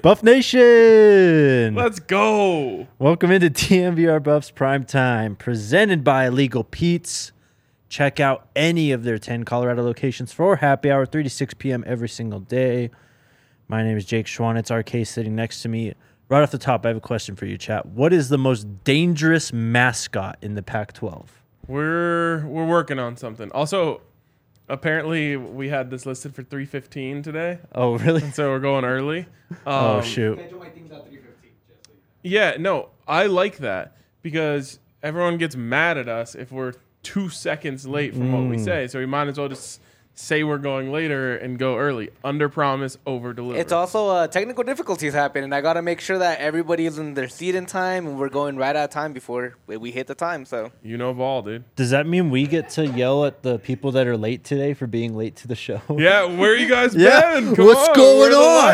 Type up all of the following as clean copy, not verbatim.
Buff Nation! Let's go. Welcome into TMVR Buffs Prime Time, presented by Legal Pete's. Check out any of their 10 Colorado locations for happy hour, 3 to 6 p.m. every single day. My name is Jake Schwan. It's RK sitting next to me. Right off the top, I have a question for you, chat. What is the most dangerous mascot in the Pac-12? We're working on something. Also, apparently we had this listed for 3:15 today. Oh, really? And so we're going early. Oh, shoot. Yeah, no, I like that because everyone gets mad at us if we're 2 seconds late from what we say. So we might as well just say we're going later and go early. Under promise, over deliver. It's also technical difficulties happen, and I got to make sure that everybody is in their seat in time, and we're going right out of time before we hit the time. So you know ball, dude. Does that mean we get to yell at the people that are late today for being late to the show? Yeah, where you guys Yeah, been? Come what's on, going where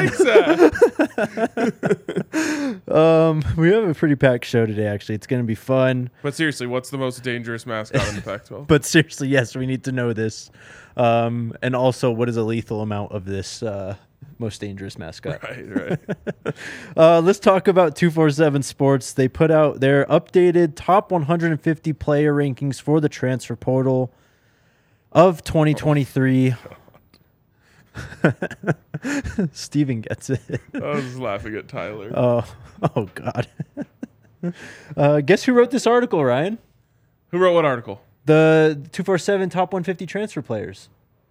the lights at? We have a pretty packed show today, actually. It's going to be fun. But seriously, what's the most dangerous mascot in the Pac-12? But seriously, yes, we need to know this. And also, what is a lethal amount of this most dangerous mascot? Right. Let's talk about 247 Sports. They put out their updated top 150 player rankings for the transfer portal of 2023. Steven gets it. I was just laughing at Tyler. Oh God. Guess who wrote this article, Ryan? Who wrote what article? The 247 top 150 transfer players.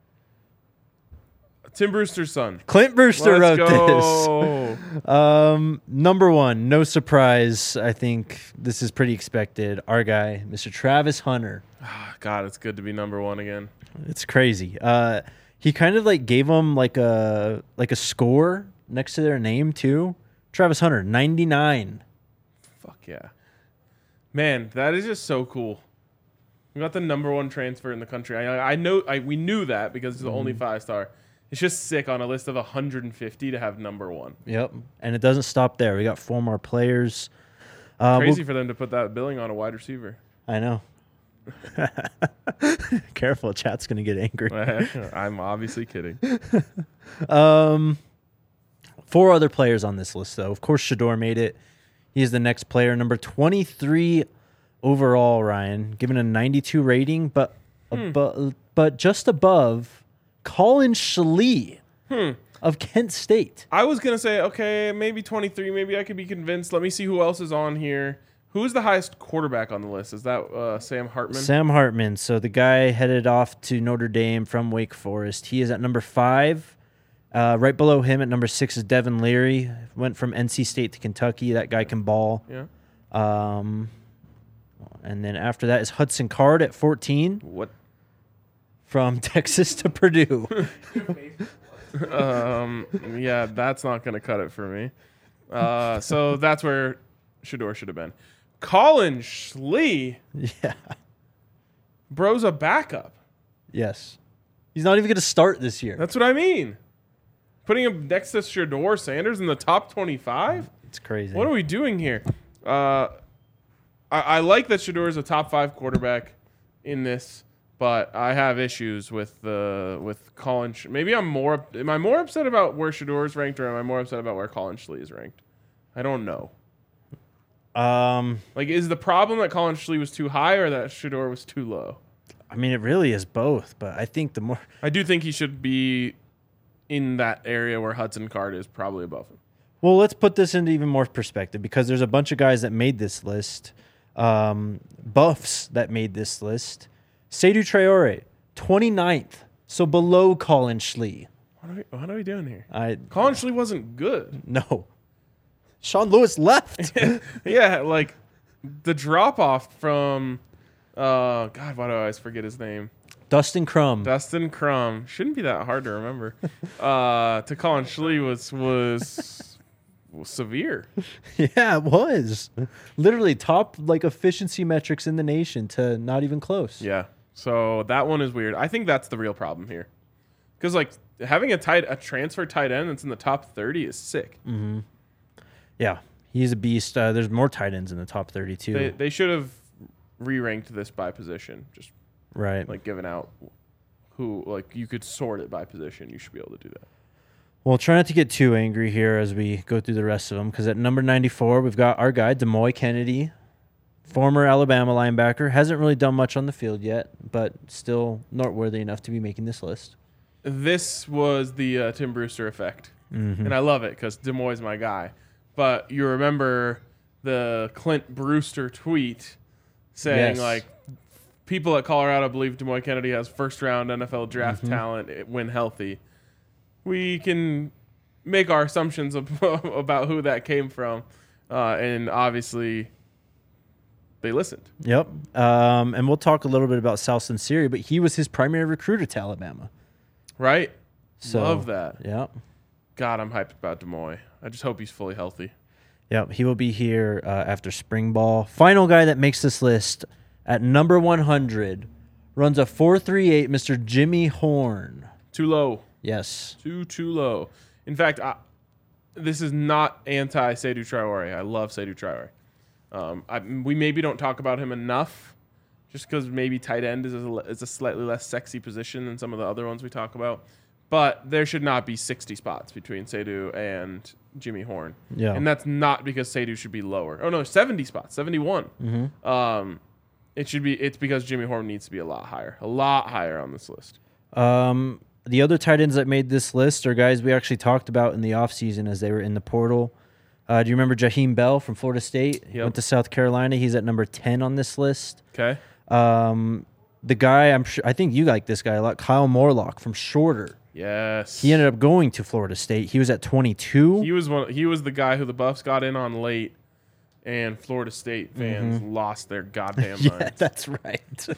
Tim Brewster's son. Clint Brewster Let's wrote go. this. Number one, no surprise. I think this is pretty expected. Our guy, Mr. Travis Hunter. God, it's good to be number one again. It's crazy. He kind of like gave them like a score next to their name too. Travis Hunter, 99. Fuck yeah. Man, that is just so cool. We got the number one transfer in the country. We knew that because it's the only 5-star. It's just sick on a list of 150 to have number one. Yep. And it doesn't stop there. We got 4 more players. Crazy for them to put that billing on a wide receiver. I know. Careful, chat's going to get angry. I'm obviously kidding. 4 other players on this list, though. Of course, Shedeur made it. He is the next player, number 23 overall, Ryan, given a 92 rating, but just above Colin Schlee of Kent State. I was going to say, okay, maybe 23. Maybe I could be convinced. Let me see who else is on here. Who is the highest quarterback on the list? Is that Sam Hartman? Sam Hartman. So the guy headed off to Notre Dame from Wake Forest. He is at number 5. Right below him at number 6 is Devin Leary. Went from NC State to Kentucky. That guy can ball. Yeah. And then after that is Hudson Card at 14. What? From Texas to Purdue. Yeah, that's not going to cut it for me. So that's where Shedeur should have been. Colin Schlee. Yeah. Bro's a backup. Yes. He's not even going to start this year. That's what I mean. Putting him next to Shedeur Sanders in the top 25? It's crazy. What are we doing here? I like that Shedeur is a top 5 quarterback in this, but I have issues with Colin. Maybe am I more upset about where Shedeur is ranked, or am I more upset about where Colin Schlee is ranked? I don't know. Is the problem that Colin Schlee was too high or that Shedeur was too low? I mean, it really is both, but I think I do think he should be in that area where Hudson Card is, probably above him. Well, let's put this into even more perspective because there's a bunch of guys that made this list, buffs that made this list. Seydou Traore, 29th, so below Colin Schlee. What are we doing here? Colin Schlee wasn't good. No. Sean Lewis left. Yeah, like the drop off from God, why do I always forget his name? Dustin Crum. Shouldn't be that hard to remember. To Colin Schlee was severe. Yeah, it was. Literally top efficiency metrics in the nation to not even close. Yeah. So that one is weird. I think that's the real problem here. Because having a transfer tight end that's in the top 30 is sick. Mm-hmm. Yeah, he's a beast. There's more tight ends in the top 32. They should have re-ranked this by position. Just right. Given out who, you could sort it by position. You should be able to do that. Well, try not to get too angry here as we go through the rest of them, because at number 94, we've got our guy, Demoy Kennedy, former Alabama linebacker. Hasn't really done much on the field yet, but still noteworthy enough to be making this list. This was the Tim Brewster effect. Mm-hmm. And I love it because Demoy's my guy. But you remember the Clint Brewster tweet saying, Yes. like, people at Colorado believe Demoy Kennedy has first-round NFL draft talent when healthy. We can make our assumptions about who that came from. And obviously, they listened. Yep. And we'll talk a little bit about Sal Sinceri, but he was his primary recruiter to Alabama. Right? So, Love that. Yep. God, I'm hyped about Demoy. I just hope he's fully healthy. Yep. He will be here after spring ball. Final guy that makes this list at number 100 runs a 4.38, Mr. Jimmy Horn. Too low. Yes. Too low. In fact, this is not anti-Seydou Traore. I love Seydou Traore. We maybe don't talk about him enough just because maybe tight end is a slightly less sexy position than some of the other ones we talk about. But there should not be 60 spots between Seydou and Jimmy Horn. Yeah. And that's not because Seydou should be lower. Oh, no, 70 spots, 71. Mm-hmm. It's because Jimmy Horn needs to be a lot higher on this list. The other tight ends that made this list are guys we actually talked about in the offseason as they were in the portal. Do you remember Jaheim Bell from Florida State? Yep. Went to South Carolina. He's at number 10 on this list. Okay. The guy, I think you like this guy a lot, Kyle Morlock from Shorter. Yes. He ended up going to Florida State. He was at 22. He was the guy who the Buffs got in on late, and Florida State fans lost their goddamn Yeah, minds. that's right.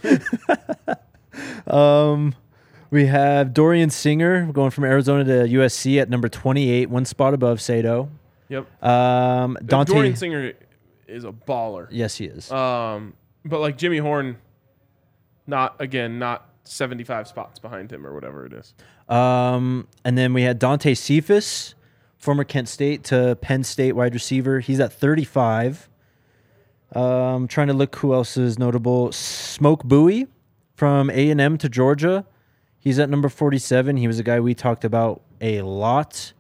We have Dorian Singer going from Arizona to USC at number 28, one spot above Sato. Yep. Dante. Dorian Singer is a baller. Yes, he is. But like Jimmy Horn, not 75 spots behind him or whatever it is. And then we had Dante Cephas, former Kent State to Penn State wide receiver. He's at 35. Trying to look who else is notable. Smoke Bowie from A&M to Georgia. He's at number 47. He was a guy we talked about a lot.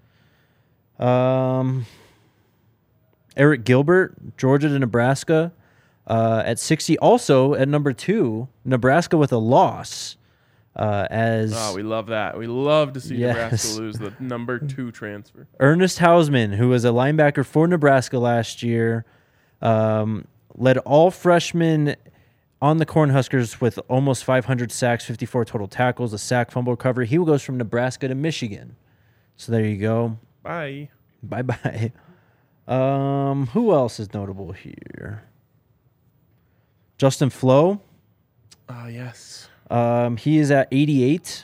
Eric Gilbert, Georgia to Nebraska, at 60. Also at number 2, Nebraska with a loss. We love that. We love to see Yes. Nebraska lose the number 2 transfer. Ernest Hausman, who was a linebacker for Nebraska last year, led all freshmen on the Cornhuskers with almost 500 sacks, 54 total tackles, a sack, fumble recovery. He goes from Nebraska to Michigan. So there you go. Bye. Bye-bye. Who else is notable here? Justin Flo. Yes. He is at 88.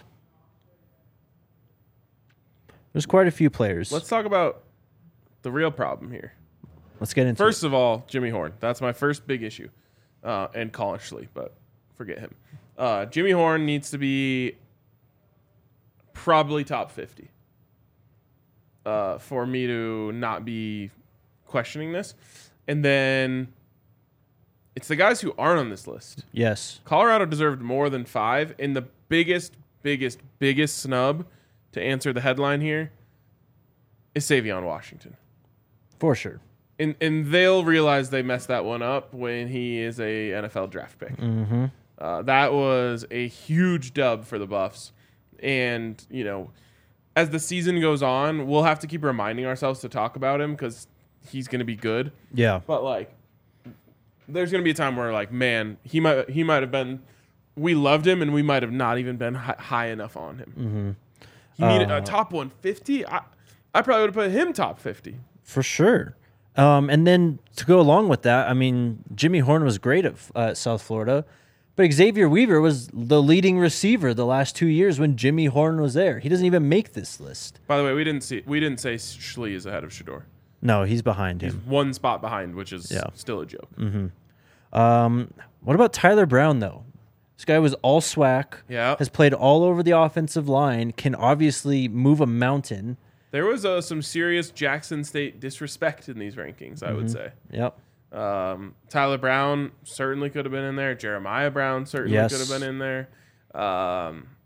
There's quite a few players. Let's talk about the real problem here. Let's get into First of all, Jimmy Horn. That's my first big issue. And Colin Schley, but forget him. Jimmy Horn needs to be probably top 50 for me to not be questioning this. And then it's the guys who aren't on this list. Yes. Colorado deserved more than 5. And the biggest snub to answer the headline here is Savion Washington. For sure. And they'll realize they messed that one up when he is a NFL draft pick. Mm-hmm. That was a huge dub for the Buffs. And, as the season goes on, we'll have to keep reminding ourselves to talk about him because he's going to be good. Yeah. But, there's going to be a time where, man, he might have been – we loved him, and we might have not even been high enough on him. Mm-hmm. He needed a top 150. I probably would have put him top 50. For sure. And then to go along with that, I mean, Jimmy Horn was great at South Florida, but Xavier Weaver was the leading receiver the last 2 years when Jimmy Horn was there. He doesn't even make this list. By the way, we didn't say Schley is ahead of Shador. No, he's behind He's him. one spot behind, which is still a joke. Mm-hmm. What about Tyler Brown, though? This guy was all SWAC, has played all over the offensive line, can obviously move a mountain. There was some serious Jackson State disrespect in these rankings, I would say. Yep. Tyler Brown certainly could have been in there. Jeremiah Brown certainly could have been in there.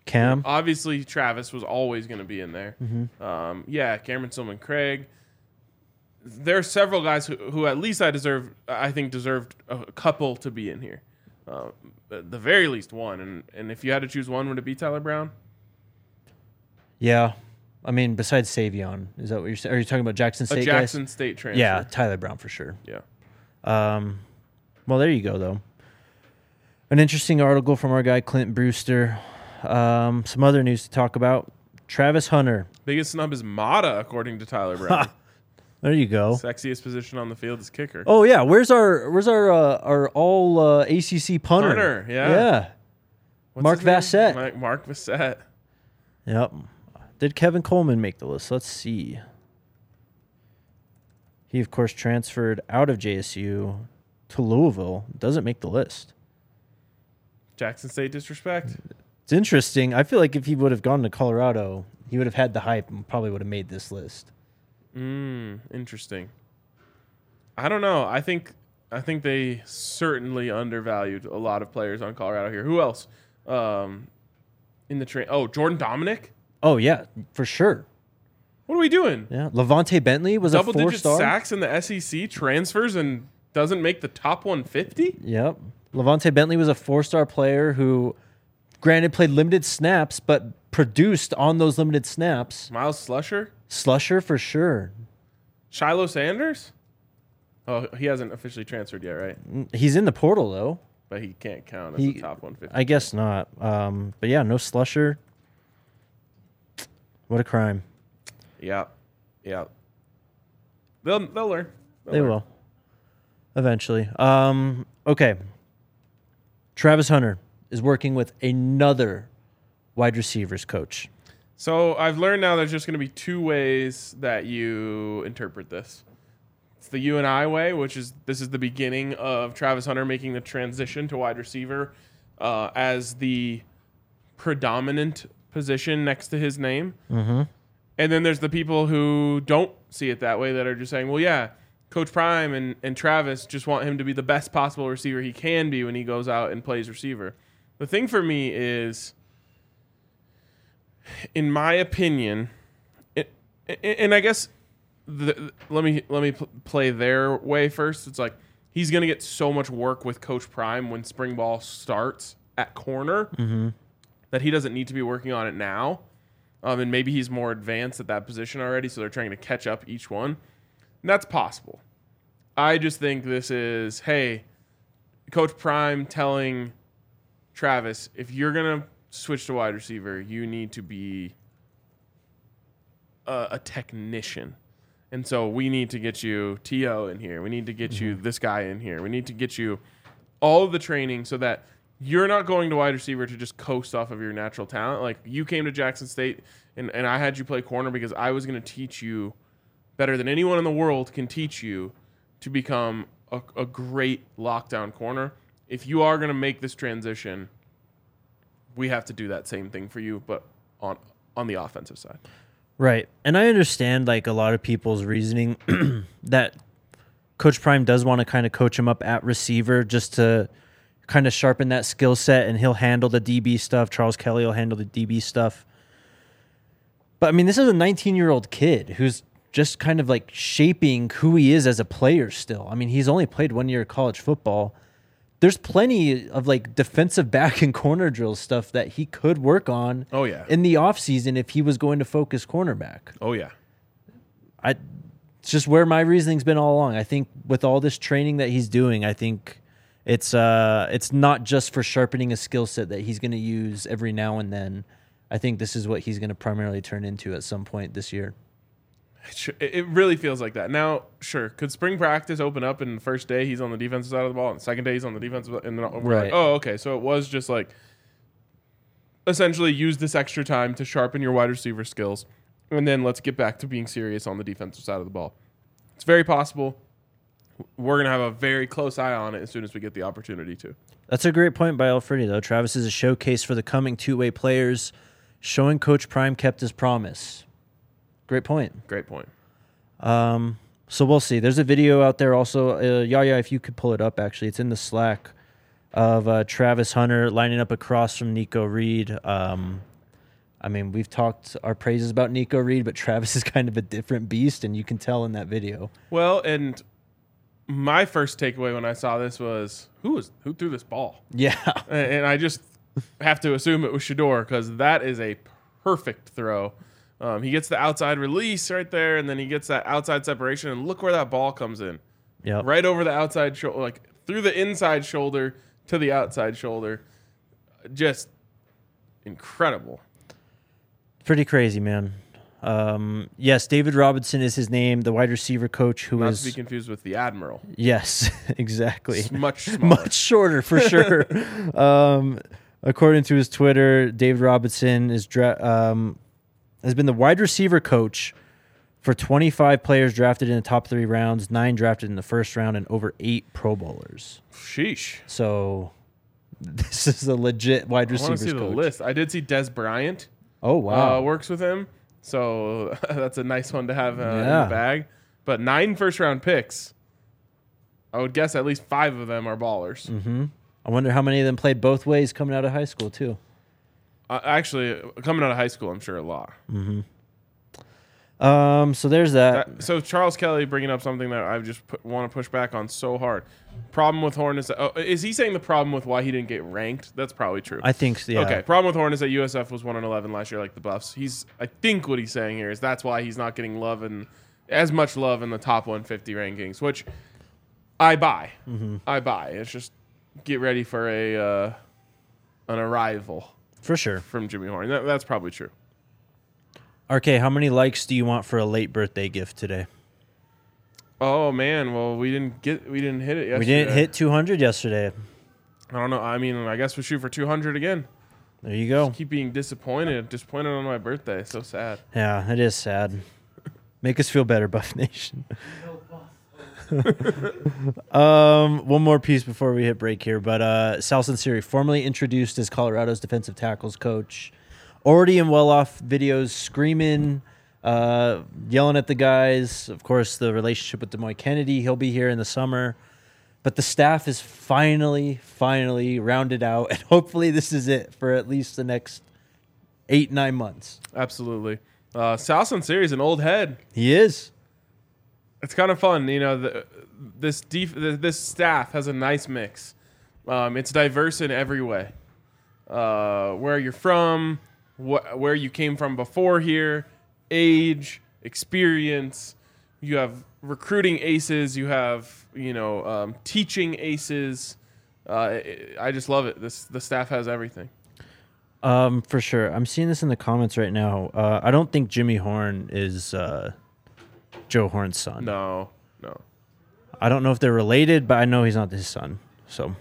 Cam. Obviously, Travis was always going to be in there. Mm-hmm. Cameron Stillman Craig. There are several guys who at least I think deserved a couple to be in here. At the very least one. And if you had to choose one, would it be Tyler Brown? Yeah. I mean, besides Savion, is that what you're saying? Are you talking about Jackson State A Jackson State transfer. Yeah, Tyler Brown for sure. Yeah. Well, there you go, though. An interesting article from our guy, Clint Brewster. Some other news to talk about. Travis Hunter. Biggest snub is Mata, according to Tyler Brown. There you go. Sexiest position on the field is kicker. Oh, yeah. Where's our all ACC punter? Punter, yeah. Yeah. What's Mark his name? Vassett. Mark Vassett. Yep. Did Kevin Coleman make the list? Let's see. He, of course, transferred out of JSU to Louisville. Doesn't make the list. Jackson State disrespect. It's interesting. I feel like if he would have gone to Colorado, he would have had the hype and probably would have made this list. Interesting. I don't know. I think they certainly undervalued a lot of players on Colorado here. Who else? In the train. Oh, Jordan Dominic? Oh, yeah, for sure. What are we doing? Yeah. Levante Bentley was a 4-star. Double-digit sacks in the SEC, transfers, and doesn't make the top 150? Yep. Levante Bentley was a 4-star player who, granted, played limited snaps, but produced on those limited snaps. Miles Slusher? Slusher for sure. Shiloh Sanders? Oh, he hasn't officially transferred yet, right? He's in the portal, though. But he can't count as a top 150. I guess not. But yeah, no Slusher. What a crime. Yeah. They'll learn. They will. Eventually. Okay. Travis Hunter is working with another wide receivers coach. So I've learned now there's just going to be two ways that you interpret this. It's the you and I way, which is this is the beginning of Travis Hunter making the transition to wide receiver as the predominant position next to his name. Mm-hmm. And then there's the people who don't see it that way that are just saying, well, yeah, Coach Prime and Travis just want him to be the best possible receiver he can be when he goes out and plays receiver. The thing for me is, in my opinion, and I guess let me play their way first. It's like he's going to get so much work with Coach Prime when spring ball starts at corner that he doesn't need to be working on it now. And maybe he's more advanced at that position already, so they're trying to catch up each one. And that's possible. I just think this is, hey, Coach Prime telling Travis, if you're going to switch to wide receiver, you need to be a technician. And so we need to get you T.O. in here. We need to get you this guy in here. We need to get you all of the training so that you're not going to wide receiver to just coast off of your natural talent. Like, you came to Jackson State, and I had you play corner because I was going to teach you better than anyone in the world can teach you to become a great lockdown corner. If you are going to make this transition, we have to do that same thing for you, but on the offensive side. Right. And I understand, like, a lot of people's reasoning that Coach Prime does want to kind of coach him up at receiver just to kind of sharpen that skill set, and he'll handle the DB stuff. Charles Kelly will handle the DB stuff. But, I mean, this is a 19-year-old kid who's just kind of, like, shaping who he is as a player still. I mean, he's only played 1 year of college football. There's plenty of, like, defensive back and corner drill stuff that he could work on in the offseason if he was going to focus cornerback. Oh, yeah. It's just where my reasoning's been all along. I think with all this training that he's doing, I think it's not just for sharpening a skill set that he's going to use every now and then. I think this is what he's going to primarily turn into at some point this year. It really feels like that. Now, sure, could spring practice open up and the first day he's on the defensive side of the ball and the second day he's on the defensive side, and then we're like, oh, okay, so it was just like essentially use this extra time to sharpen your wide receiver skills, and then let's get back to being serious on the defensive side of the ball. It's very possible. We're going to have a very close eye on it as soon as we get the opportunity to. That's a great point by Alfredi, though. Travis is a showcase for the coming two-way players, showing Coach Prime kept his promise. Great point. Great point. So we'll see. There's a video out there also. Yaya, if you could pull it up, actually. It's in the Slack of Travis Hunter lining up across from Nico Reed. I mean, we've talked our praises about Nico Reed, but Travis is kind of a different beast, and you can tell in that video. Well, and my first takeaway when I saw this was who threw this ball? Yeah. And I just have to assume it was Shador because that is a perfect throw. He gets the outside release right there, and then he gets that outside separation, and look where that ball comes in. Yep. Right over the outside shoulder, like through the inside shoulder to the outside shoulder. Just incredible. Pretty crazy, man. Yes, David Robinson is his name, the wide receiver coach who Not is... to be confused with the Admiral. Yes, exactly. It's much smaller. Much shorter, for sure. According to his Twitter, David Robinson has been the wide receiver coach for 25 players drafted in the top 3 rounds, 9 drafted in the first round, and over 8 Pro Bowlers. Sheesh. So this is a legit wide I want receivers to see the coach. list. I did see Des Bryant. Oh, wow. Works with him. So that's a nice one to have in Yeah. the bag. But 9 first-round picks. I would guess at least 5 of them are ballers. Mm-hmm. I wonder how many of them played both ways coming out of high school, too. Actually, coming out of high school, I'm sure a lot. Mm-hmm. So there's that. So Charles Kelly bringing up something that I just want to push back on so hard. Problem with Horn is that, is he saying the problem with why he didn't get ranked? That's probably true. I think so, yeah. Okay. Problem with Horn is that USF was 1-11 last year, like the Buffs. I think what he's saying here is that's why he's not getting love and as much love in the top 150 rankings, which I buy. Mm-hmm. I buy. It's just get ready for an arrival For sure. from Jimmy Horn. That's probably true. RK, how many likes do you want for a late birthday gift today? Oh man, well we didn't hit it yesterday. We didn't hit 200 yesterday. I don't know. I mean, I guess we shoot for 200 again. There you go. Keep being disappointed on my birthday. So sad. Yeah, it is sad. Make us feel better, Buff Nation. One more piece before we hit break here, but Sal Sinceri, formerly introduced as Colorado's defensive tackles coach, already in well-off videos, screaming, yelling at the guys. Of course, the relationship with Demoy Kennedy, he'll be here in the summer. But the staff is finally rounded out, and hopefully this is it for at least the next 8-9 months. Absolutely. Sal Sinceri is an old head. He is. It's kind of fun, this staff has a nice mix. It's diverse in every way. Where you're from, where you came from before here, age, experience. You have recruiting aces. You have teaching aces. I just love it. The staff has everything. For sure. I'm seeing this in the comments right now. I don't think Jimmy Horn is Joe Horn's son. No. I don't know if they're related, but I know he's not his son. So,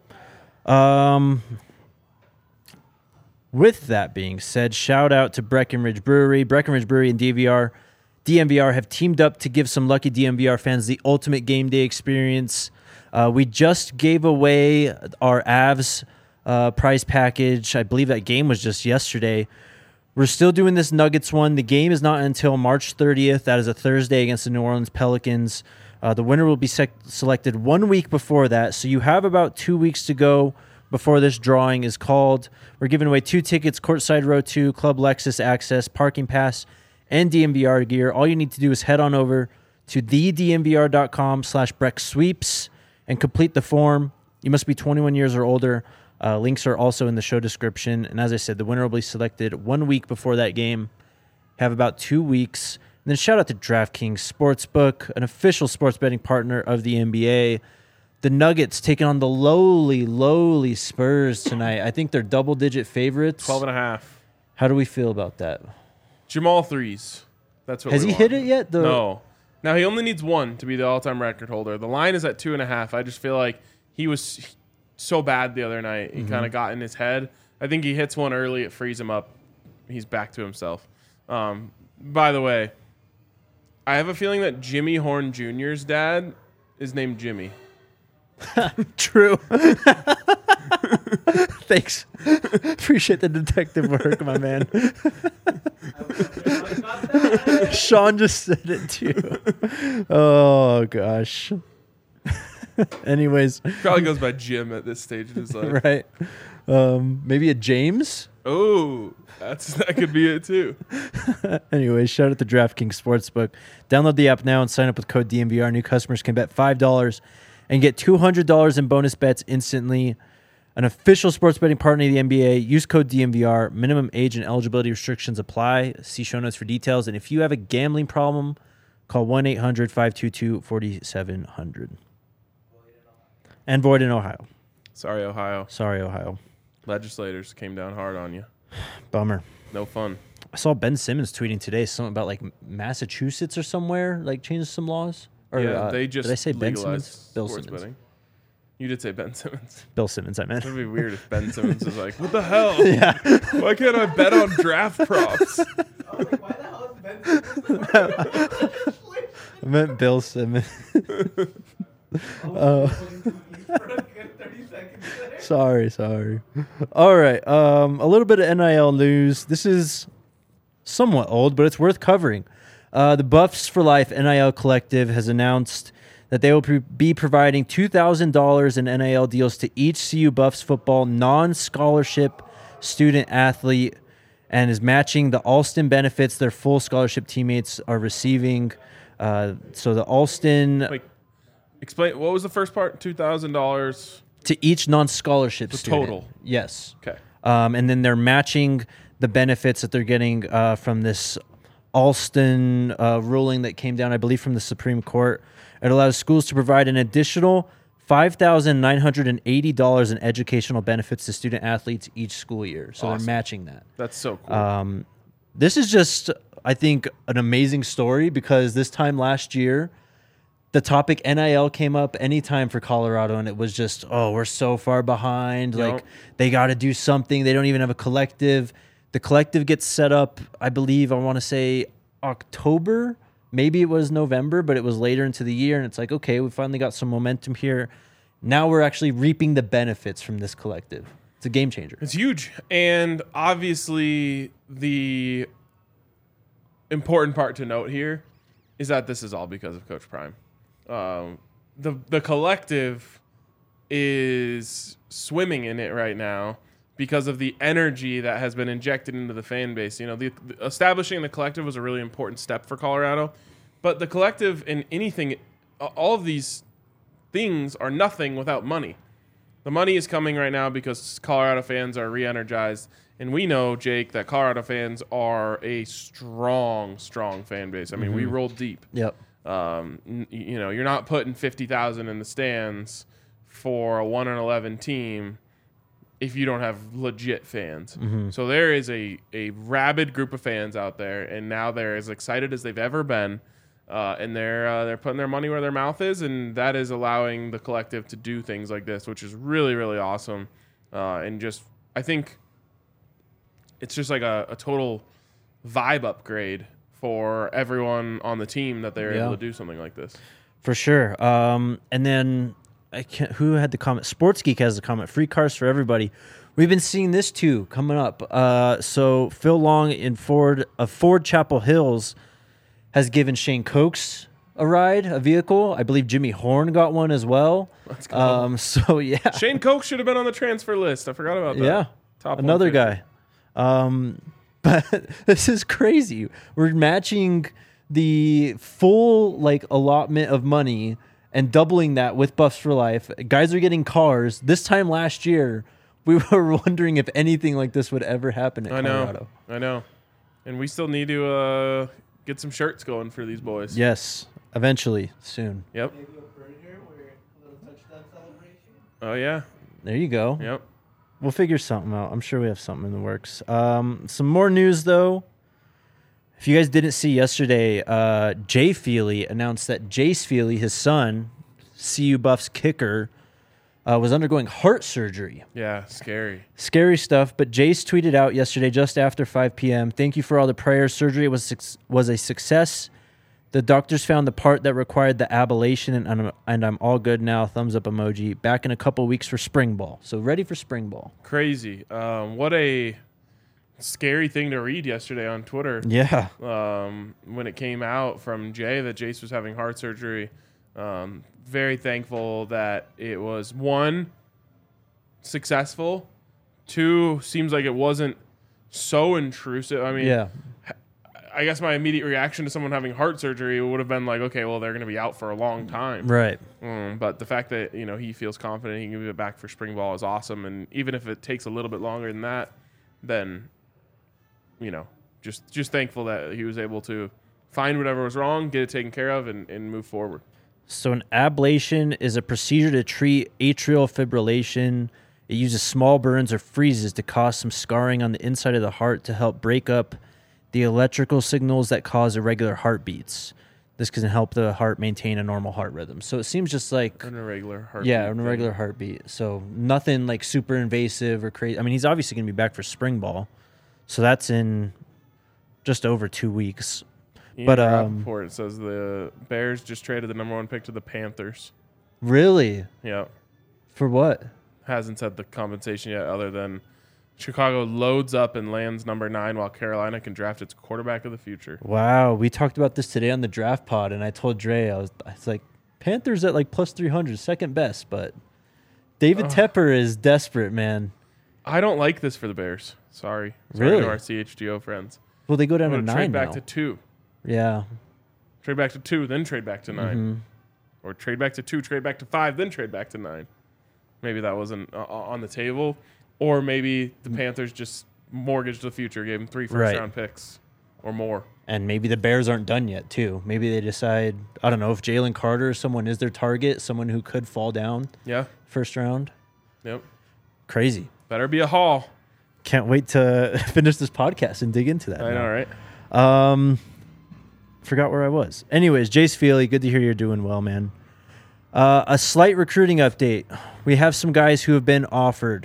with that being said, shout out to Breckenridge Brewery. Breckenridge Brewery and DMVR have teamed up to give some lucky DMVR fans the ultimate game day experience. We just gave away our Avs prize package. I believe that game was just yesterday. We're still doing this Nuggets one. The game is not until March 30th. That is a Thursday against the New Orleans Pelicans. The winner will be selected 1 week before that, so you have about 2 weeks to go before this drawing is called. We're giving away 2 tickets, Courtside Row 2, Club Lexus Access, Parking Pass, and DMVR gear. All you need to do is head on over to thedmvr.com/BreckSweeps and complete the form. You must be 21 years or older. Links are also in the show description. And as I said, the winner will be selected 1 week before that game. Have about 2 weeks. And then shout out to DraftKings Sportsbook, an official sports betting partner of the NBA. The Nuggets taking on the lowly Spurs tonight. I think they're double-digit favorites. 12.5. How do we feel about that? Jamal threes. That's what Has we he want. hit it yet? No. Now he only needs 1 to be the all-time record holder. The line is at 2.5. I just feel like he was so bad the other night. He kind of got in his head. I think he hits one early. It frees him up. He's back to himself. By the way, I have a feeling that Jimmy Horn Jr.'s dad is named Jimmy. True. Thanks. Appreciate the detective work, my man. Sean just said it too. Oh, gosh. Anyways. Probably goes by Jim at this stage of his life. Right. Maybe a James? Oh, that could be it too. Anyway, shout out to DraftKings Sportsbook. Download the app now and sign up with code DMVR. New customers can bet $5 and get $200 in bonus bets instantly. An official sports betting partner of the NBA. Use code DMVR. Minimum age and eligibility restrictions apply. See show notes for details. And if you have a gambling problem, call 1-800-522-4700. And void in Ohio. Sorry, Ohio. Sorry, Ohio. Legislators came down hard on you. Bummer. No fun. I saw Ben Simmons tweeting today something about like Massachusetts or somewhere like changed some laws. Or, Yeah, they just did I say Ben legalized Simmons? Bill sports Simmons. betting. You did say Ben Simmons. Bill Simmons, I meant. It would be weird if Ben Simmons was like, what the hell? Yeah. Why can't I bet on draft props? I was like, why the hell is Ben Simmons? I meant Bill Simmons. Sorry. All right. A little bit of NIL news. This is somewhat old, but it's worth covering. The Buffs for Life NIL Collective has announced that they will be providing $2,000 in NIL deals to each CU Buffs football non-scholarship student athlete and is matching the Alston benefits their full scholarship teammates are receiving. So the Alston... Like, explain, what was the first part? $2,000 to each non-scholarship student. total? Yes. Okay. And then they're matching the benefits that they're getting from this Alston ruling that came down, I believe, from the Supreme Court. It allows schools to provide an additional $5,980 in educational benefits to student athletes each school year. So Awesome. they're matching that. That's so cool. This is just, I think, an amazing story because this time last year, the topic NIL came up anytime for Colorado, and it was just, oh, we're so far behind. Yep. Like, they got to do something. They don't even have a collective. The collective gets set up, I believe, I want to say October. Maybe it was November, but it was later into the year, and it's like, okay, we finally got some momentum here. Now we're actually reaping the benefits from this collective. It's a game changer. It's huge. And obviously, the important part to note here is that this is all because of Coach Prime. The collective is swimming in it right now because of the energy that has been injected into the fan base. You know, establishing the collective was a really important step for Colorado, but the collective and anything, all of these things are nothing without money. The money is coming right now because Colorado fans are re-energized, and we know, Jake, that Colorado fans are a strong fan base. I mean, we roll deep. Yep. You know, you're not putting 50,000 in the stands for a 1-11 team if you don't have legit fans. So there is a rabid group of fans out there, and now they're as excited as they've ever been, and they're putting their money where their mouth is, and that is allowing the collective to do things like this, which is really, really awesome. And just, I think it's just like a total vibe upgrade for everyone on the team that they're able to do something like this. For sure. And then who had the comment? Sports Geek has the comment. Free cars for everybody. We've been seeing this too coming up. So Phil Long in Ford Chapel Hills has given Shane Cokes a ride, a vehicle. I believe Jimmy Horn got one as well. Let's go. So yeah, Shane Koch should have been on the transfer list. I forgot about that. yeah, Top another 150. guy. But this is crazy. We're matching the full like allotment of money and doubling that with Buffs for Life. Guys are getting cars. This time last year, we were wondering if anything like this would ever happen at Colorado. I know. And we still need to get some shirts going for these boys. Yes, eventually, soon. Yep. Maybe a burger or a little touchdown celebration. Oh, yeah. There you go. Yep. We'll figure something out. I'm sure we have something in the works. Some more news, though. If you guys didn't see yesterday, Jay Feely announced that Jace Feely, his son, CU Buffs kicker, was undergoing heart surgery. Yeah, scary. Scary stuff, but Jace tweeted out yesterday just after 5 p.m., "Thank you for all the prayers. Surgery was a success. The doctors found the part that required the ablation, and I'm all good now. Thumbs up emoji. Back in a couple weeks for spring ball. So ready for spring ball." Crazy. What a scary thing to read yesterday on Twitter. Yeah. When it came out from Jay that Jace was having heart surgery. Very thankful that it was, 1, successful. 2, seems like it wasn't so intrusive. I mean, Yeah. I guess my immediate reaction to someone having heart surgery would have been like, okay, well, they're going to be out for a long time. Right. But the fact that, he feels confident he can be back for spring ball is awesome. And even if it takes a little bit longer than that, then, just thankful that he was able to find whatever was wrong, get it taken care of, and move forward. So an ablation is a procedure to treat atrial fibrillation. It uses small burns or freezes to cause some scarring on the inside of the heart to help break up the electrical signals that cause irregular heartbeats. This can help the heart maintain a normal heart rhythm. So it seems just like An irregular heartbeat. yeah, an irregular heartbeat. So nothing like super invasive or crazy. I mean, he's obviously going to be back for spring ball. So that's in just over 2 weeks. Ian But, Rappaport says the Bears just traded the number 1 pick to the Panthers. Really? Yeah. For what? Hasn't said the compensation yet, other than Chicago loads up and lands number 9 while Carolina can draft its quarterback of the future. Wow, we talked about this today on the draft pod, and I told Dre, I was like, Panthers at like plus 300, second best, but David Tepper is desperate, man. I don't like this for the Bears. Sorry Really? to our CHGO friends. Well, they go down I'm to gonna 9 trade back now. to 2. Yeah. Trade back to 2, then trade back to 9. Mm-hmm. Or trade back to 2, trade back to 5, then trade back to 9. Maybe that wasn't on the table. Or maybe the Panthers just mortgaged the future, gave them 3 first-round picks or more. And maybe the Bears aren't done yet, too. Maybe they decide, I don't know, if Jalen Carter, someone is their target, someone who could fall down Yeah. first round. Yep. Crazy. Better be a haul. Can't wait to finish this podcast and dig into that. I now. know, right? Forgot where I was. Anyways, Jace Feely, good to hear you're doing well, man. A slight recruiting update. We have some guys who have been offered.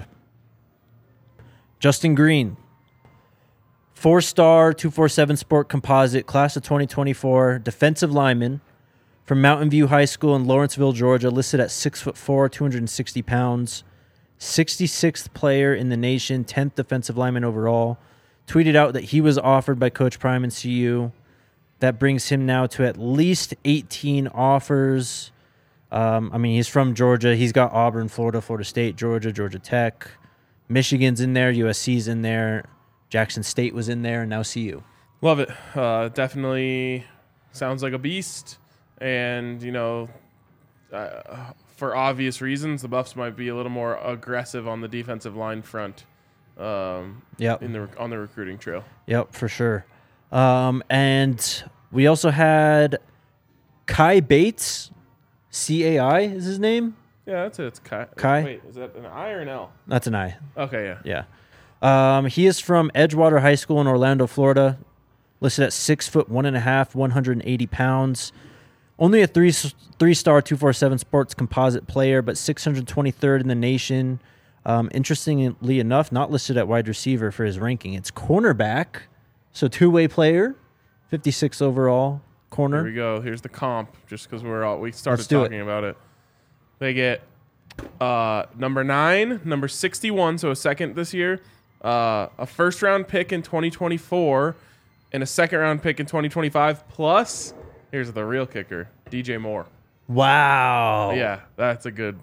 Justin Green, 4-star, 247 Sport Composite, class of 2024, defensive lineman from Mountain View High School in Lawrenceville, Georgia, listed at 6'4", 260 pounds, 66th player in the nation, 10th defensive lineman overall. Tweeted out that he was offered by Coach Prime and CU. That brings him now to at least 18 offers. I mean, he's from Georgia. He's got Auburn, Florida, Florida State, Georgia, Georgia Tech. Michigan's in there. USC's in there. Jackson State was in there, and now CU. Love it. Definitely sounds like a beast. And, for obvious reasons, the Buffs might be a little more aggressive on the defensive line front Yep. on the recruiting trail. Yep, for sure. And we also had Kai Bates, CAI is his name. Yeah, that's it. It's Kai. Kai? Wait, is that an I or an L? That's an I. Okay, yeah. Yeah. He is from Edgewater High School in Orlando, Florida. Listed at 6'1.5", 180 pounds. Only a three-star 247 Sports Composite player, but 623rd in the nation. Interestingly enough, not listed at wide receiver for his ranking. It's cornerback, so two-way player, 56 overall corner. Here we go. Here's the comp, just because we started Let's do talking about it. They get number 9, number 61, so a second this year, a first-round pick in 2024, and a second-round pick in 2025, plus, here's the real kicker, DJ Moore. Wow. Yeah, that's good.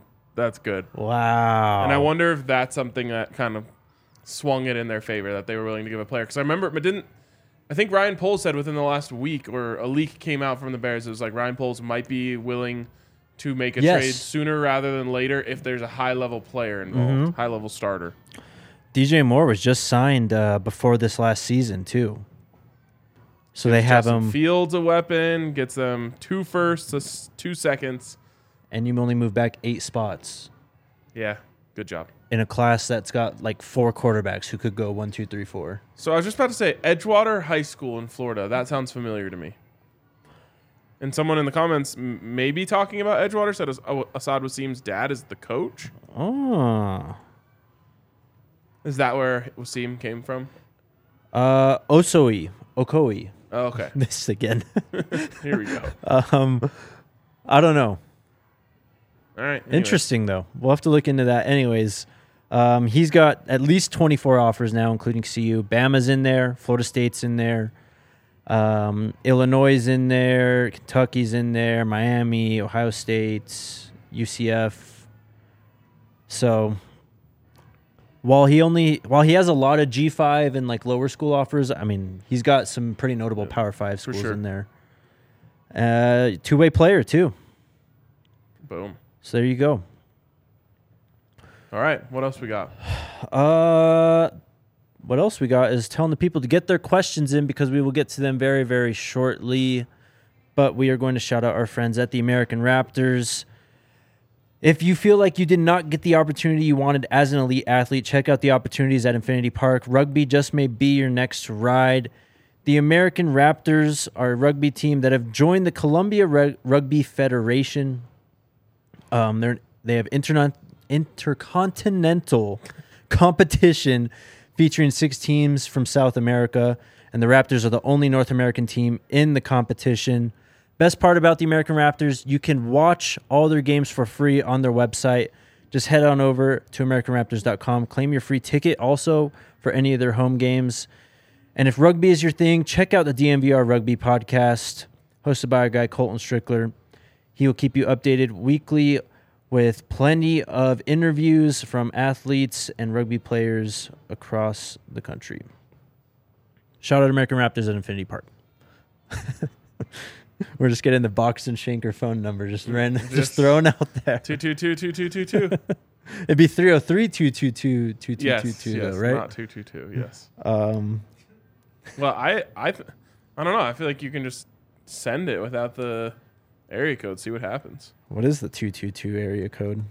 Wow. And I wonder if that's something that kind of swung it in their favor, that they were willing to give a player. Because I remember, I think Ryan Poles said within the last week, or a leak came out from the Bears, it was like Ryan Poles might be willing to make a trade sooner rather than later if there's a high-level player involved, high-level starter. DJ Moore was just signed before this last season, too. So they have Justin him. Fields a weapon, gets them 2 firsts, 2 seconds. And you only move back 8 spots Yeah, good job. in a class that's got like 4 quarterbacks who could go 1, 2, 3, 4. So I was just about to say, Edgewater High School in Florida. That sounds familiar to me. And someone in the comments maybe talking about Edgewater said Assad Wasim's dad is the coach. Oh. Is that where Wasim came from? Okoye. Oh, okay. This again. Here we go. I don't know. All right. Anyway. Interesting, though. We'll have to look into that. Anyways, he's got at least 24 offers now, including CU. Bama's in there. Florida State's in there. Illinois is in there. Kentucky's in there. Miami, Ohio State, UCF. So while he has a lot of G5 and like lower school offers, I mean, he's got some pretty notable Power 5 schools sure. in there. Two-way player too. Boom. So there you go. All right. What else we got? What else we got is telling the people to get their questions in because we will get to them very, very shortly. But we are going to shout out our friends at the American Raptors. If you feel like you did not get the opportunity you wanted as an elite athlete, check out the opportunities at Infinity Park. Rugby just may be your next ride. The American Raptors are a rugby team that have joined the Columbia Rugby Federation. They have intercontinental competition featuring 6 teams from South America, and the Raptors are the only North American team in the competition. Best part about the American Raptors, you can watch all their games for free on their website. Just head on over to AmericanRaptors.com. Claim your free ticket also for any of their home games. And if rugby is your thing, check out the DMVR Rugby podcast, hosted by our guy Colton Strickler. He will keep you updated weekly with plenty of interviews from athletes and rugby players across the country. Shout out American Raptors at Infinity Park. We're just getting the Box and Shanker phone number just thrown out there. 222-2222. It'd be 303-222-2222 Yes, though, right? not 222. Yes. Well, I don't know. I feel like you can just send it without the area code. See what happens. What is the 222 area code?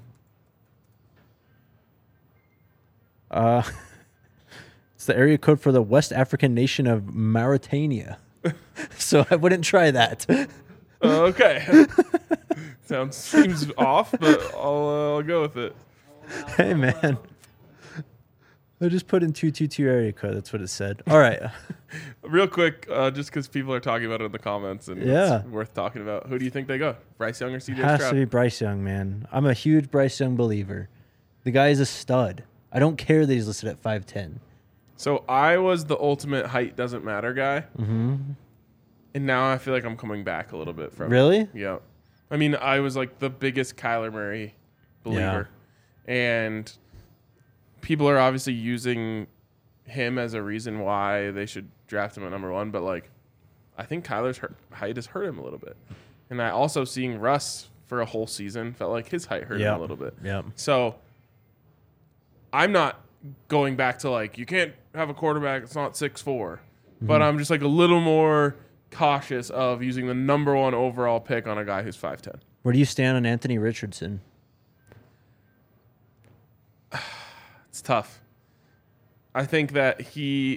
It's the area code for the West African nation of Mauritania. So I wouldn't try that. Okay. Seems off, but I'll go with it. Hey, man. I just put in 222 area code. That's what it said. All right. Real quick, just because people are talking about it in the comments and it's worth talking about. Who do you think they go? Bryce Young or CJ Stroud? Has to be Bryce Young, man. I'm a huge Bryce Young believer. The guy is a stud. I don't care that he's listed at 5'10". So I was the ultimate height doesn't matter guy. Mm-hmm. And now I feel like I'm coming back a little bit from Really? it. Yeah. I mean, I was like the biggest Kyler Murray believer. Yeah. And people are obviously using him as a reason why they should draft him at number 1. But, like, I think Kyler's height has hurt him a little bit. And I also seeing Russ for a whole season felt like his height hurt him a little bit. Yeah. So I'm not going back to, like, you can't have a quarterback that's not 6'4". Mm-hmm. But I'm just, like, a little more cautious of using the number 1 overall pick on a guy who's 5'10". Where do you stand on Anthony Richardson? It's tough. I think that he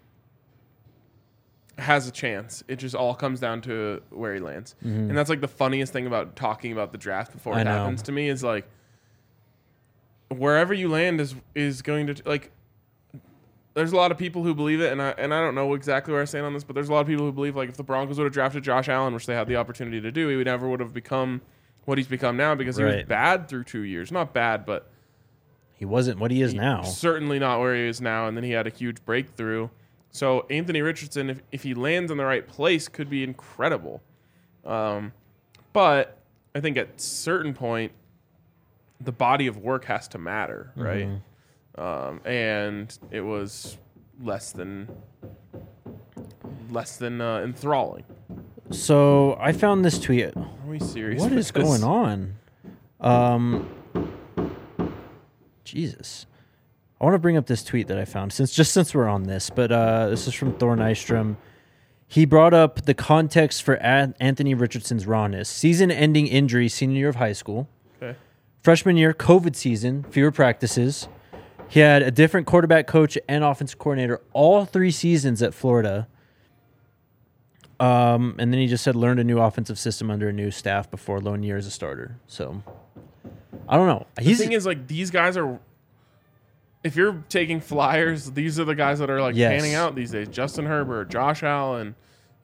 has a chance. It just all comes down to where he lands. Mm-hmm. And that's like the funniest thing about talking about the draft before it happens to me is like wherever you land is going to like there's a lot of people who believe it and I don't know exactly where I stand on this, but there's a lot of people who believe like if the Broncos would have drafted Josh Allen, which they had the opportunity to do, he never would have become what he's become now because he was bad through 2 years. Not bad, but he wasn't what he is now. Certainly not where he is now, and then he had a huge breakthrough. So Anthony Richardson, if he lands in the right place, could be incredible. But I think at a certain point, the body of work has to matter, right? Mm-hmm. And it was less than enthralling. So I found this tweet. Are we serious? What is going on? Jesus. I want to bring up this tweet that I found since we're on this, but this is from Thor Nystrom. He brought up the context for Anthony Richardson's rawness. Season-ending injury senior year of high school. Okay. Freshman year, COVID season, fewer practices. He had a different quarterback coach and offensive coordinator all 3 seasons at Florida. And then he just said learned a new offensive system under a new staff before lone year as a starter. So I don't know. The thing is, like, these guys are. If you're taking flyers, these are the guys that are like panning out these days. Justin Herbert, Josh Allen,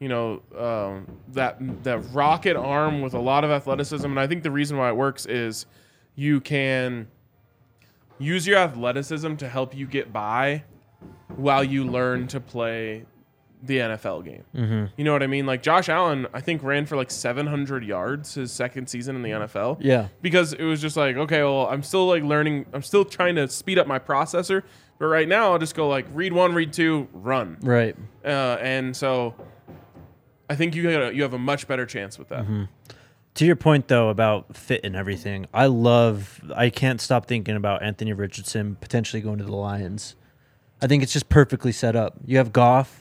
that rocket arm with a lot of athleticism. And I think the reason why it works is you can use your athleticism to help you get by while you learn to play the NFL game. Mm-hmm. You know what I mean? Like Josh Allen, I think ran for like 700 yards his second season in the NFL. Yeah. Because it was just like, okay, well, I'm still like learning. I'm still trying to speed up my processor But right now, I'll just go like read 1, read 2, run. Right. And so I think you have a much better chance with that. To your point, though, about fit and everything, I can't stop thinking about Anthony Richardson potentially going to the Lions. I think it's just perfectly set up. You have Goff.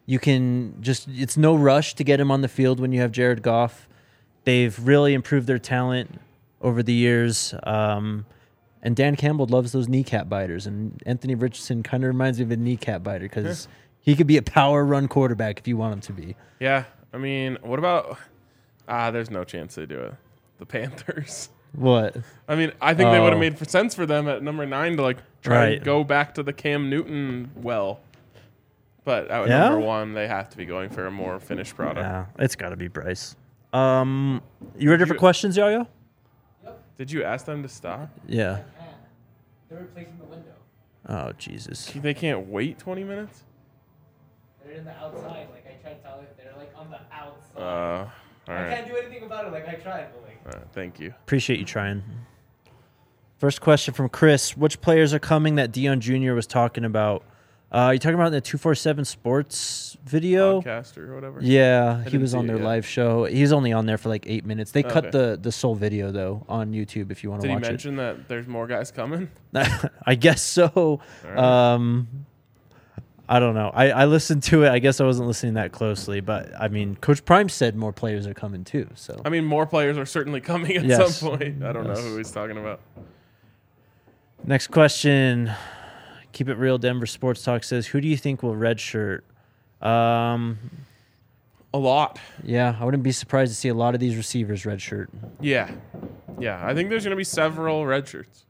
It's no rush to get him on the field when you have Jared Goff. They've really improved their talent over the years. And Dan Campbell loves those kneecap biters. And Anthony Richardson kind of reminds me of a kneecap biter because he could be a power run quarterback if you want him to be. Yeah. I mean, what about... there's no chance they do it. The Panthers. What? I mean, I think they would have made sense for them at number 9 to try to go back to the Cam Newton well. But at number 1, they have to be going for a more finished product. Yeah, it's got to be Bryce. You ready for questions, Yo-Yo? Did you ask them to stop? Yeah. They're replacing the window. Oh, Jesus. They can't wait 20 minutes? They're in the outside. Like I tried to tell you, they're like on the outside. All I right. can't do anything about it. Like I tried, but like. Thank you. Appreciate you trying. First question from Chris. Which players are coming that Dion Jr. was talking about? You talking about the 247 Sports video? Podcast or whatever? Yeah, he didn't was see on it their yet. live show. He's only on there for like 8 minutes. They cut Okay. the full video, though, on YouTube if you want to Did he watch mention that there's more guys coming? it. I guess so. right. I don't know. I listened to it. I guess I wasn't listening that closely. But, I mean, Coach Prime said more players are coming, too. So I mean, more players are certainly coming at Yes. some point. I don't know Yes. who he's talking about. Next question. Keep It Real Denver Sports Talk says, who do you think will redshirt? A lot. Yeah, I wouldn't be surprised to see a lot of these receivers redshirt. Yeah. Yeah. I think there's going to be several red shirts.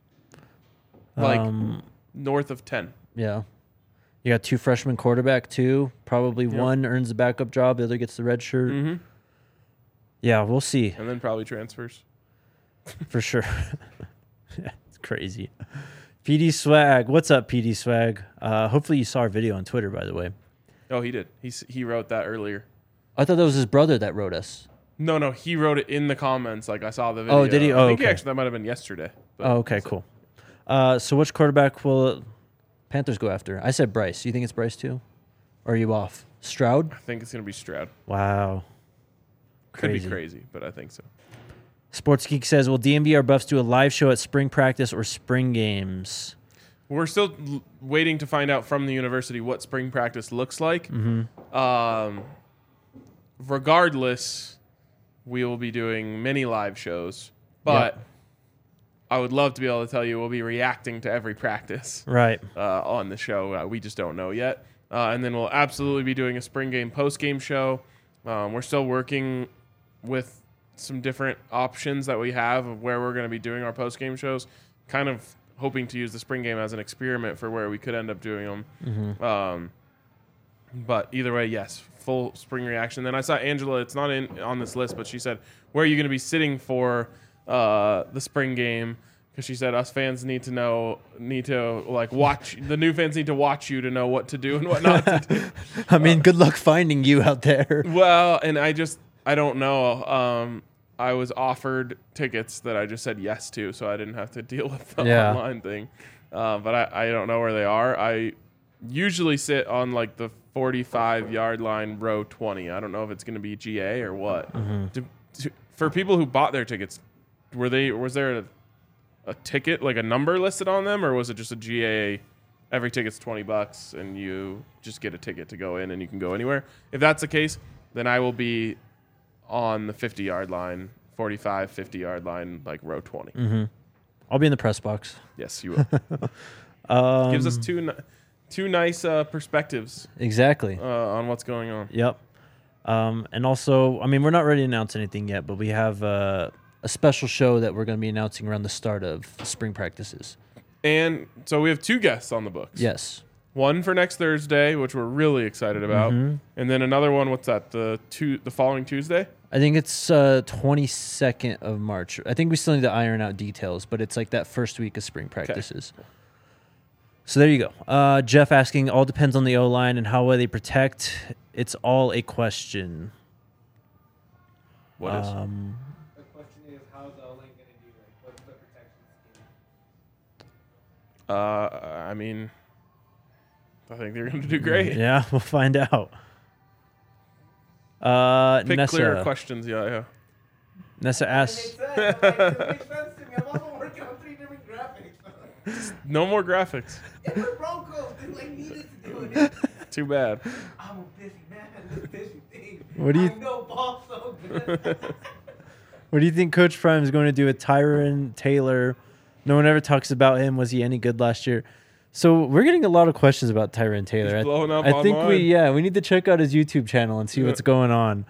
Like north of 10. Yeah. You got 2 freshman quarterback, too. Probably one earns the backup job. The other gets the red shirt. Mm-hmm. Yeah, we'll see. And then probably transfers. For sure. Yeah, it's crazy. PD Swag. What's up, PD Swag? Hopefully you saw our video on Twitter, by the way. Oh, he did. He wrote that earlier. I thought that was his brother that wrote us. No, he wrote it in the comments. Like I saw the video. Oh, did he? I Oh, think okay. that might have been yesterday. But Oh, okay, cool. So which quarterback will Panthers go after? I said Bryce. You think it's Bryce, too? Or are you off? Stroud? I think it's going to be Stroud. Wow. Could Crazy. be crazy, but I think so. Sports Geek says, will DMVR Buffs do a live show at spring practice or spring games? We're still waiting to find out from the university what spring practice looks like. Regardless, we will be doing many live shows, but I would love to be able to tell you we'll be reacting to every practice Right. on the show. We just don't know yet. And then we'll absolutely be doing a spring game, post game show. We're still working with some different options that we have of where we're going to be doing our post game shows, kind of hoping to use the spring game as an experiment for where we could end up doing them. But either way, yes, full spring reaction. Then I saw Angela, it's not on this list, but she said, where are you going to be sitting for the spring game? Because she said us fans need to watch, the new fans need to watch you to know what to do and what not to do. I mean, good luck finding you out there. Well, and I don't know. I was offered tickets that I just said yes to, so I didn't have to deal with the online thing. But I don't know where they are. I usually sit on like the 45-yard line, row 20. I don't know if it's going to be GA or what. For people who bought their tickets, was there a ticket, like a number listed on them, or was it just a GA? Every ticket's $20 and you just get a ticket to go in and you can go anywhere. If that's the case, then I will be on the 50-yard line, 45, 50-yard line, like row 20. I'll be in the press box. Yes, you will. Gives us two nice perspectives Exactly. on what's going on. Yep. And also, I mean, we're not ready to announce anything yet, but we have a special show that we're going to be announcing around the start of spring practices. And so we have 2 guests on the books. Yes. One for next Thursday, which we're really excited about, and then another one. What's that? The following Tuesday. I think it's 22nd of March. I think we still need to iron out details, but it's like that first week of spring practices. So there you go. Jeff asking, all depends on the O-line and how well they protect. It's all a question. What is? The question is, how's the O-line going to do? Like, what's the protection scheme? I mean, I think they're going to do great. Yeah, we'll find out. Pick Nessa, clearer questions, yeah. Nessa It asks, makes sense. Like, it makes sense to me. I'm also working on 3 different graphics. No more graphics. It's the Broncos. They like needed to do it. Too bad. I'm a busy man. It's a busy thing. What do you- I know ball so good. what do you think Coach Prime is going to do with Tyron Taylor? No one ever talks about him. Was he any good last year? So we're getting a lot of questions about Tyron Taylor. He's blowing up I think online. we need to check out his YouTube channel and see Yeah. what's going on.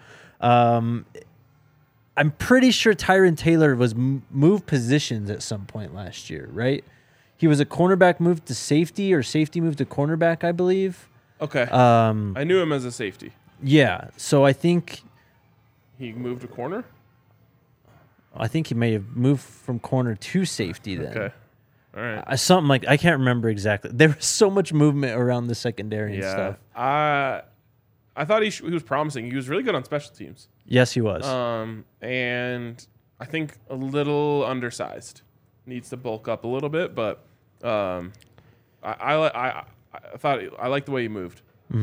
I'm pretty sure Tyron Taylor was moved positions at some point last year, right? He was a cornerback moved to safety or safety moved to cornerback, I believe. Okay. Um, I knew him as a safety. yeah. So I think He moved to corner? he may have moved from corner to safety then. Okay. All right. Something like I can't remember exactly. There was so much movement around the secondary and Yeah. stuff. I thought he was promising. He was really good on special teams. Yes, he was. And I think a little undersized. Needs to bulk up a little bit, but I thought I liked the way he moved.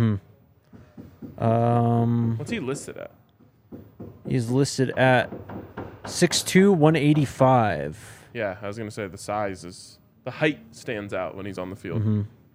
What's he listed at? He's listed at 6'2", 185. Yeah, I was gonna say the height stands out when he's on the field.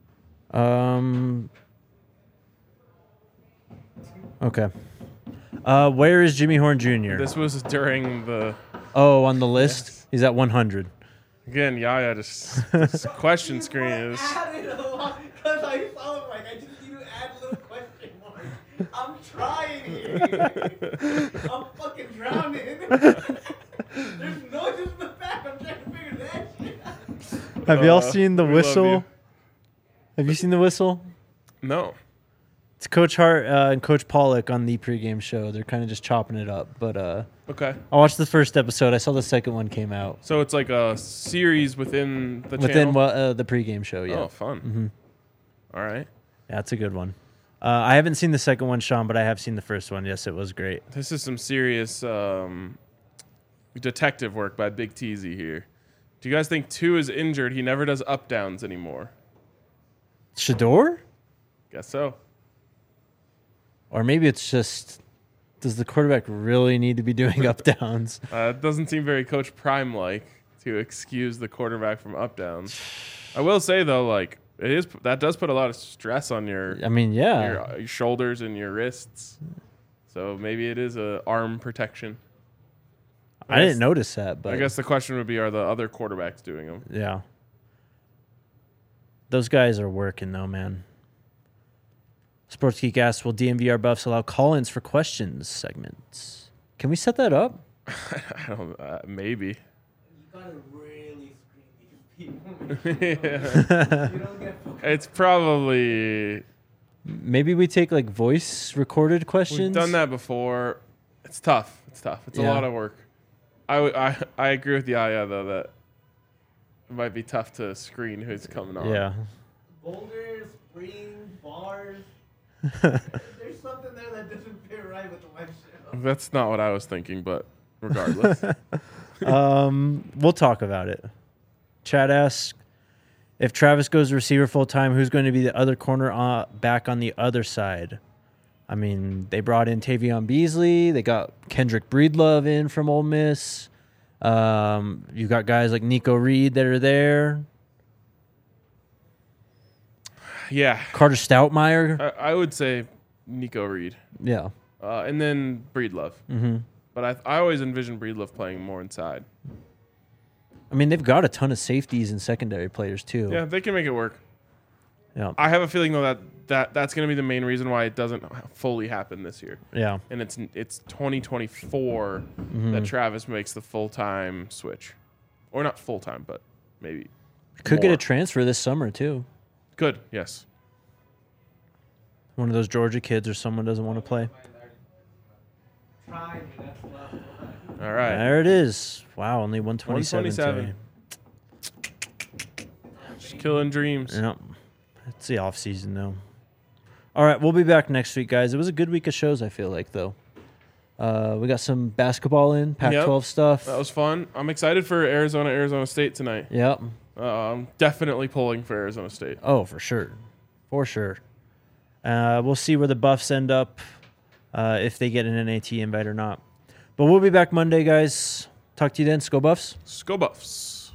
Okay. Where is Jimmy Horn Jr.? This was during the On the list, he's at 100. again. Yaya just this question screen is. Added a lot because I saw him like I just need to add a little question mark. I'm trying here. I'm fucking drowning. There's noises in the back. I'm trying to figure that shit out. Have y'all seen the we love whistle? you. Have you seen the whistle? No. It's Coach Hart and Coach Pollock on the pregame show. They're kind of just chopping it up. But Okay. I watched the first episode. I saw the second one came out So it's like a series within the within channel. the pregame show. Yeah, Oh, fun. All right. yeah, it's a good one. I haven't seen the second one, Sean, but I have seen the first one. Yes, it was great. This is some serious detective work by Big Teasy here. Do you guys think 2 is injured? He never does up downs anymore. Shador? Guess so. Or maybe it's just, does the quarterback really need to be doing up downs? It doesn't seem very Coach Prime like to excuse the quarterback from up downs. I will say though, like that does put a lot of stress on your I mean, yeah. your shoulders and your wrists. So maybe it is a arm protection. I didn't notice that, but I guess the question would be: are the other quarterbacks doing them? yeah. Those guys are working though, man. Sports Geek asks, will DMVR buffs allow call-ins for questions segments? Can we set that up? I don't. Maybe. You gotta really screen these people. You don't get focused. It's probably Maybe we take like voice recorded questions. we've done that before. It's tough. It's a Yeah. lot of work. I agree with Yaya though that it might be tough to screen who's coming on. Yeah. Boulders, spring, bars. There's something there that doesn't fit right with the live show. That's not what I was thinking, but regardless. We'll talk about it. Chad asks, if Travis goes receiver full time, who's going to be the other corner back on the other side? I mean, they brought in Tavion Beasley. They got Kendrick Breedlove in from Ole Miss. You got guys like Nico Reed that are there. Yeah. Carter Stoutmeyer. I would say Nico Reed. Yeah. And then Breedlove. Mm-hmm. But I always envision Breedlove playing more inside. I mean, they've got a ton of safeties and secondary players too. Yeah, they can make it work. Yeah. I have a feeling though that's going to be the main reason why it doesn't fully happen this year. Yeah. And it's 2024 that Travis makes the full-time switch. Or not full-time, but maybe Could get more. a transfer this summer too. Good, yes. One of those Georgia kids or someone doesn't want to play. Try me, that's left. All right. There it is. Wow, only 127 127. today. Just killing dreams. Yep. It's the off season though. All right, we'll be back next week, guys. It was a good week of shows, I feel like, though. We got some basketball in, Pac-12 stuff. That was fun. I'm excited for Arizona State tonight. Yep. I'm definitely pulling for Arizona State. Oh, for sure. For sure. We'll see where the Buffs end up, if they get an NAT invite or not. But we'll be back Monday, guys. Talk to you then. Go Buffs. Let's go Buffs.